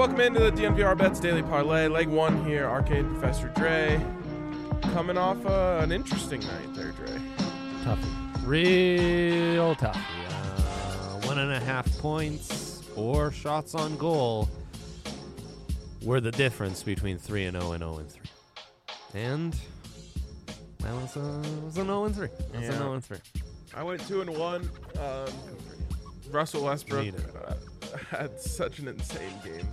welcome into the DNVR Bets Daily Parlay. Leg one here, Arcade Professor Dre. Coming off an interesting night there, Dre. Tough. Real tough. 1.5 points, 4 shots on goal were the difference between 3-0 and 0-3. And, well, it was an 0-3. It was an 0-3. I went 2-1. Russell Westbrook had such an insane game.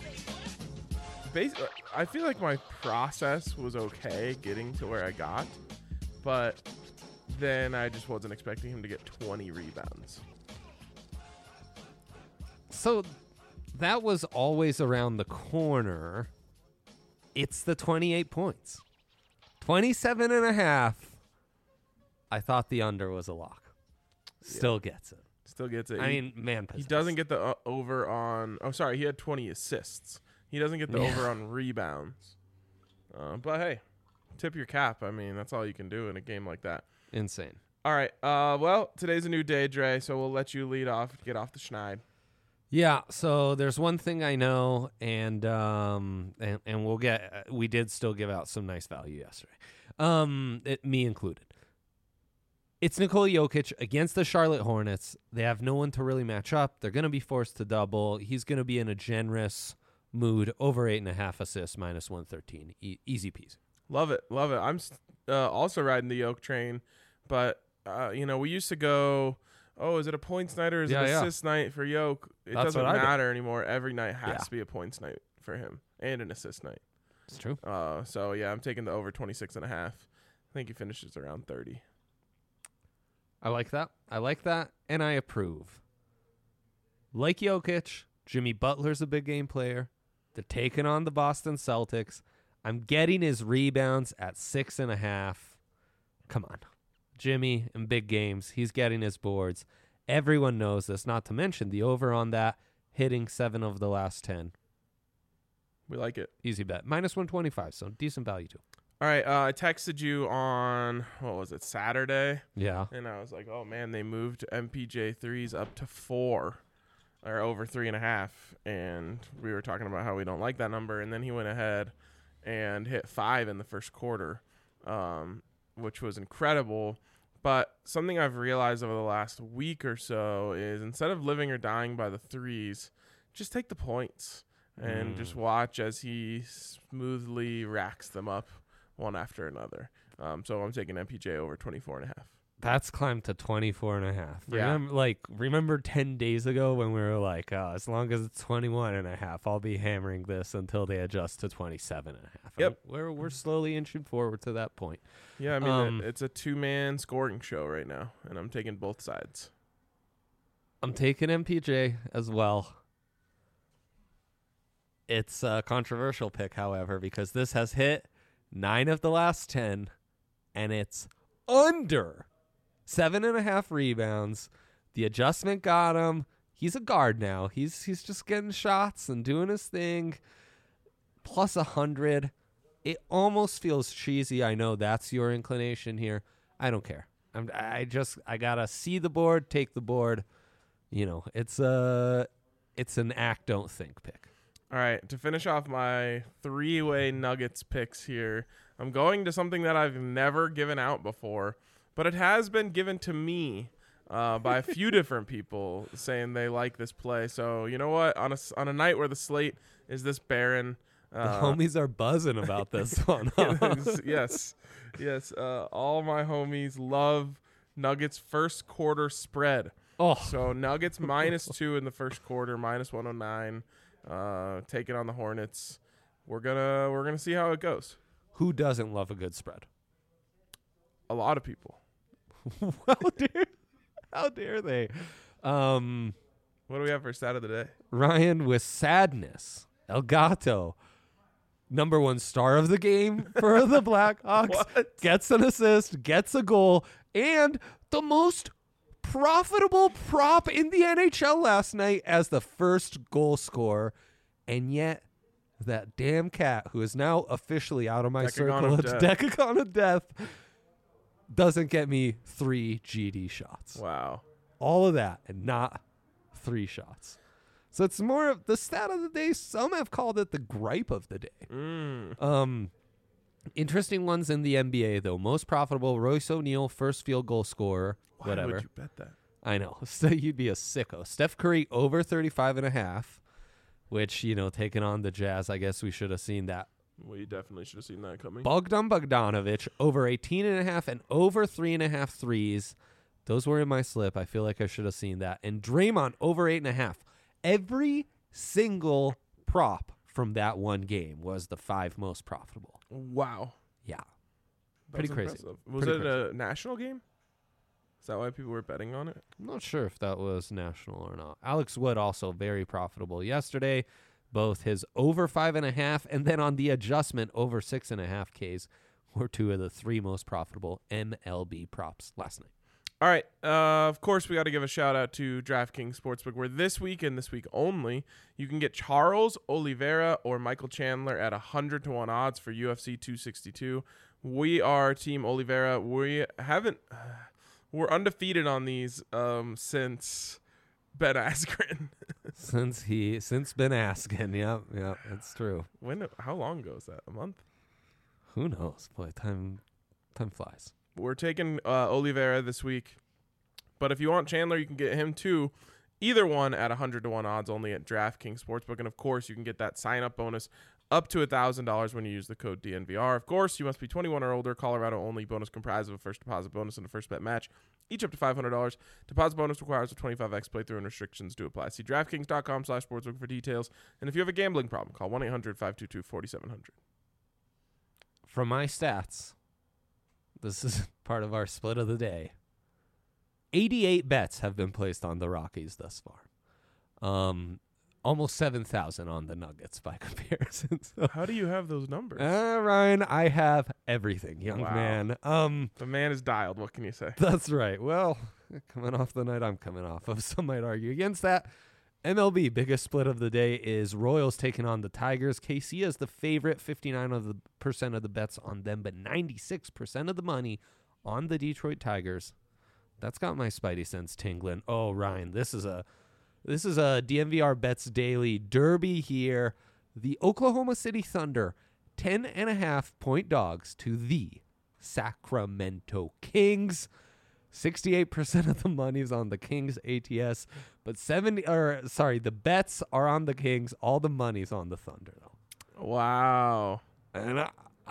I feel like my process was okay getting to where I got, but then I just wasn't expecting him to get 20 rebounds. So that was always around the corner. It's the 28 points. 27.5. I thought the under was a lock. Still gets it. Still gets it. I mean, man, he doesn't get the over on. Oh, sorry, he had 20 assists. He doesn't get the over on rebounds. But hey, tip your cap. I mean, that's all you can do in a game like that. Insane. All right. Well, today's a new day, Dre. So we'll let you lead off. Get off the schneid. Yeah. So there's one thing I know, and we'll get. We did still give out some nice value yesterday. Me included. It's Nikola Jokic against the Charlotte Hornets. They have no one to really match up. They're going to be forced to double. He's going to be in a generous mood. Over 8.5 assists, minus 113. Easy peasy. Love it. Love it. I'm also riding the Yoke train. But, we used to go, is it a points night or is it an assist night for Yoke? It doesn't matter anymore. Every night has to be a points night for him and an assist night. It's true. I'm taking the over 26.5. I think he finishes around 30. I like that, and I approve. Like Jokic, Jimmy Butler's a big game player. They're taking on the Boston Celtics. I'm getting his rebounds at 6.5. Come on. Jimmy in big games, he's getting his boards. Everyone knows this, not to mention the over on that, hitting 7 of the last 10. We like it. Easy bet. Minus 125, so decent value too. All right, I texted you on, Saturday? Yeah. And I was like, oh, man, they moved MPJ 3s up to 4, or over 3.5. And we were talking about how we don't like that number. And then he went ahead and hit 5 in the first quarter, which was incredible. But something I've realized over the last week or so is instead of living or dying by the 3s, just take the points and just watch as he smoothly racks them up one after another. So I'm taking MPJ over 24.5. That's climbed to 24.5. Yeah. Remember 10 days ago when we were like, as long as it's 21.5, I'll be hammering this until they adjust to 27.5. Yep. We're slowly inching forward to that point. Yeah, I mean, it's a 2-man scoring show right now, and I'm taking both sides. I'm taking MPJ as well. It's a controversial pick, however, because this has hit 9 of the last 10, and it's under 7.5 rebounds. The adjustment got him. He's a guard now. He's just getting shots and doing his thing. Plus 100. It almost feels cheesy. I know that's your inclination here. I don't care. I gotta see the board, take the board. It's an act, don't think pick. All right, to finish off my 3-way Nuggets picks here, I'm going to something that I've never given out before, but it has been given to me by a few different people saying they like this play. So you know what? On a night where the slate is this barren, the homies are buzzing about this one. Huh? Yes. All my homies love Nuggets first quarter spread. Oh, so Nuggets -2 in the first quarter, minus 109. Taking on the Hornets. We're gonna see how it goes. Who doesn't love a good spread? A lot of people. How dare they? What do we have for stat of the day? Ryan with sadness. El Gato, number 1 star of the game for the Blackhawks, gets an assist, gets a goal, and the most profitable prop in the NHL last night as the first goal scorer. And yet that damn cat, who is now officially out of my circle of Decagon of Death, doesn't get me 3 GD shots. Wow. All of that and not 3 shots. So it's more of the stat of the day. Some have called it the gripe of the day. Interesting ones in the NBA, though. Most profitable, Royce O'Neal, first field goal scorer. Why Whatever. would you bet that? I know. So you'd be a sicko. Steph Curry over 35.5, which, taking on the Jazz, I guess we should have seen that. We definitely should have seen that coming. Bogdan Bogdanovic over 18.5 and over 3.5 threes. Those were in my slip. I feel like I should have seen that. And Draymond over 8.5. Every single prop from that one game was the 5 most profitable. Wow. Yeah. That's Pretty crazy. impressive. Was Pretty it a national game? Is that why people were betting on it? I'm not sure if that was national or not. Alex Wood also very profitable yesterday. Both his over 5.5 and then on the adjustment over 6.5 Ks were 2 of the 3 most profitable MLB props last night. All right. Of course, we got to give a shout out to DraftKings Sportsbook, where this week and this week only, you can get Charles Oliveira or Michael Chandler at 100-1 odds for UFC 262. We are Team Oliveira. We're undefeated on these since Ben Askren. since Ben Askren. Yep, that's true. How long ago is that? A month? Who knows? Boy, time flies. We're taking Oliveira this week. But if you want Chandler, you can get him too. Either one at 100-1 odds only at DraftKings Sportsbook. And, of course, you can get that sign-up bonus up to $1,000 when you use the code DNVR. Of course, you must be 21 or older. Colorado only. Bonus comprised of a first deposit bonus and a first bet match, each up to $500. Deposit bonus requires a 25x playthrough and restrictions do apply. See DraftKings.com/sportsbook for details. And if you have a gambling problem, call 1-800-522-4700. From my stats, this is part of our split of the day. 88 bets have been placed on the Rockies thus far. Almost 7,000 on the Nuggets by comparison. So, how do you have those numbers? Ryan, I have everything, young man. The man is dialed. What can you say? That's right. Well, coming off the night I'm coming off of, some might argue against that. MLB, biggest split of the day is Royals taking on the Tigers. KC is the favorite, 59% of the bets on them, but 96% of the money on the Detroit Tigers. That's got my spidey sense tingling. Oh, Ryan, this is a DNVR Bets Daily Derby here. The Oklahoma City Thunder, 10.5-point dogs to the Sacramento Kings. 68% of the money's on the Kings ATS, but the bets are on the Kings. All the money's on the Thunder, though. Wow. And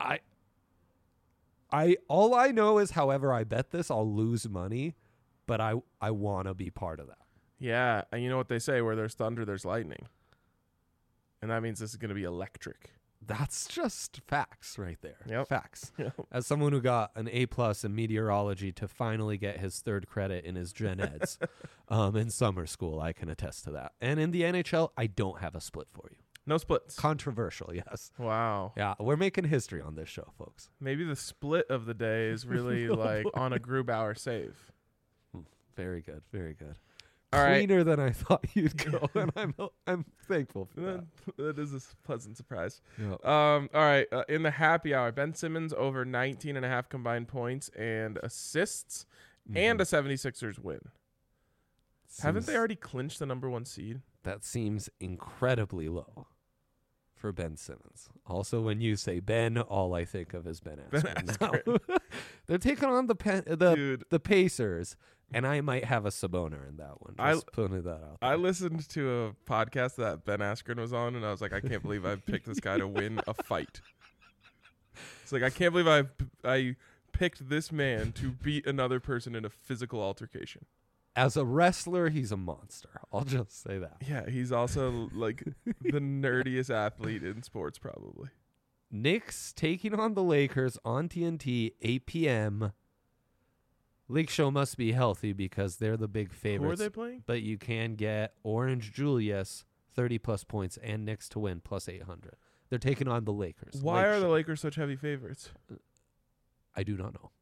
I all I know is, however I bet this, I'll lose money, but I want to be part of that. Yeah, and you know what they say, where there's thunder, there's lightning. And that means this is going to be electric. That's just facts right there. Yep. Facts. Yep. As someone who got an A+ in meteorology to finally get his third credit in his gen eds in summer school, I can attest to that. And in the NHL, I don't have a split for you. No splits. Controversial, yes. Wow. Yeah, we're making history on this show, folks. Maybe the split of the day is really like on a Grubauer save. Very good. Very good. All right. Cleaner than I thought you'd go, and I'm thankful for that. That is a pleasant surprise. Yep. All right. In the happy hour, Ben Simmons over 19.5 combined points and assists and a 76ers win. Haven't they already clinched the number 1 seed? That seems incredibly low for Ben Simmons. Also, when you say Ben, all I think of is Ben Askren. Now. They're taking on the Pacers, and I might have a Saboner in that one. Just putting that out there. I listened to a podcast that Ben Askren was on, and I was like, I can't believe I picked this guy to win a fight. It's like, I can't believe I picked this man to beat another person in a physical altercation. As a wrestler, he's a monster. I'll just say that. Yeah, he's also like the nerdiest athlete in sports, probably. Knicks taking on the Lakers on TNT, 8 p.m. Lake Show must be healthy because they're the big favorites. Who are they playing? But you can get Orange Julius, 30-plus points, and Knicks to win, plus 800. They're taking on the Lakers. Why are the Lakers such heavy favorites? I do not know.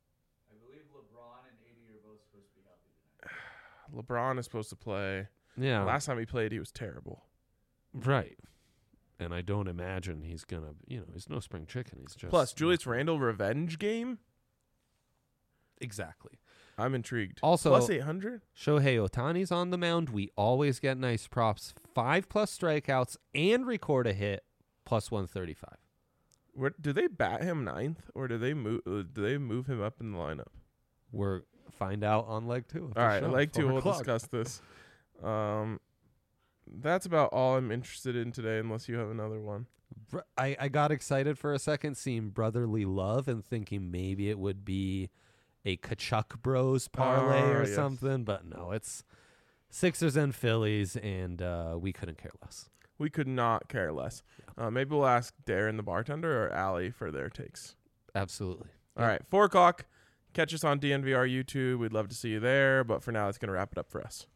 LeBron is supposed to play. Yeah. Last time he played, he was terrible. Right. And I don't imagine he's going to, he's no spring chicken. He's just. Plus, Julius Randle revenge game? Exactly. I'm intrigued. Also, plus 800. Shohei Otani's on the mound. We always get nice props. 5+ strikeouts and record a hit, plus 135. Where do they bat him ninth, or do they move him up in the lineup? We're find out on leg 2. All right, leg 2. 4 We'll o'clock. discuss this. That's about all I'm interested in today, unless you have another one. I got excited for a second seeing Brotherly Love and thinking maybe it would be a Kachuk Bros parlay or yes. something, but no, it's Sixers and Phillies, and we couldn't care less. We could not care less. Maybe we'll ask Darren the bartender or Allie for their takes. Absolutely. All right, 4 o'clock. Catch us on DNVR YouTube. We'd love to see you there. But for now, it's going to wrap it up for us.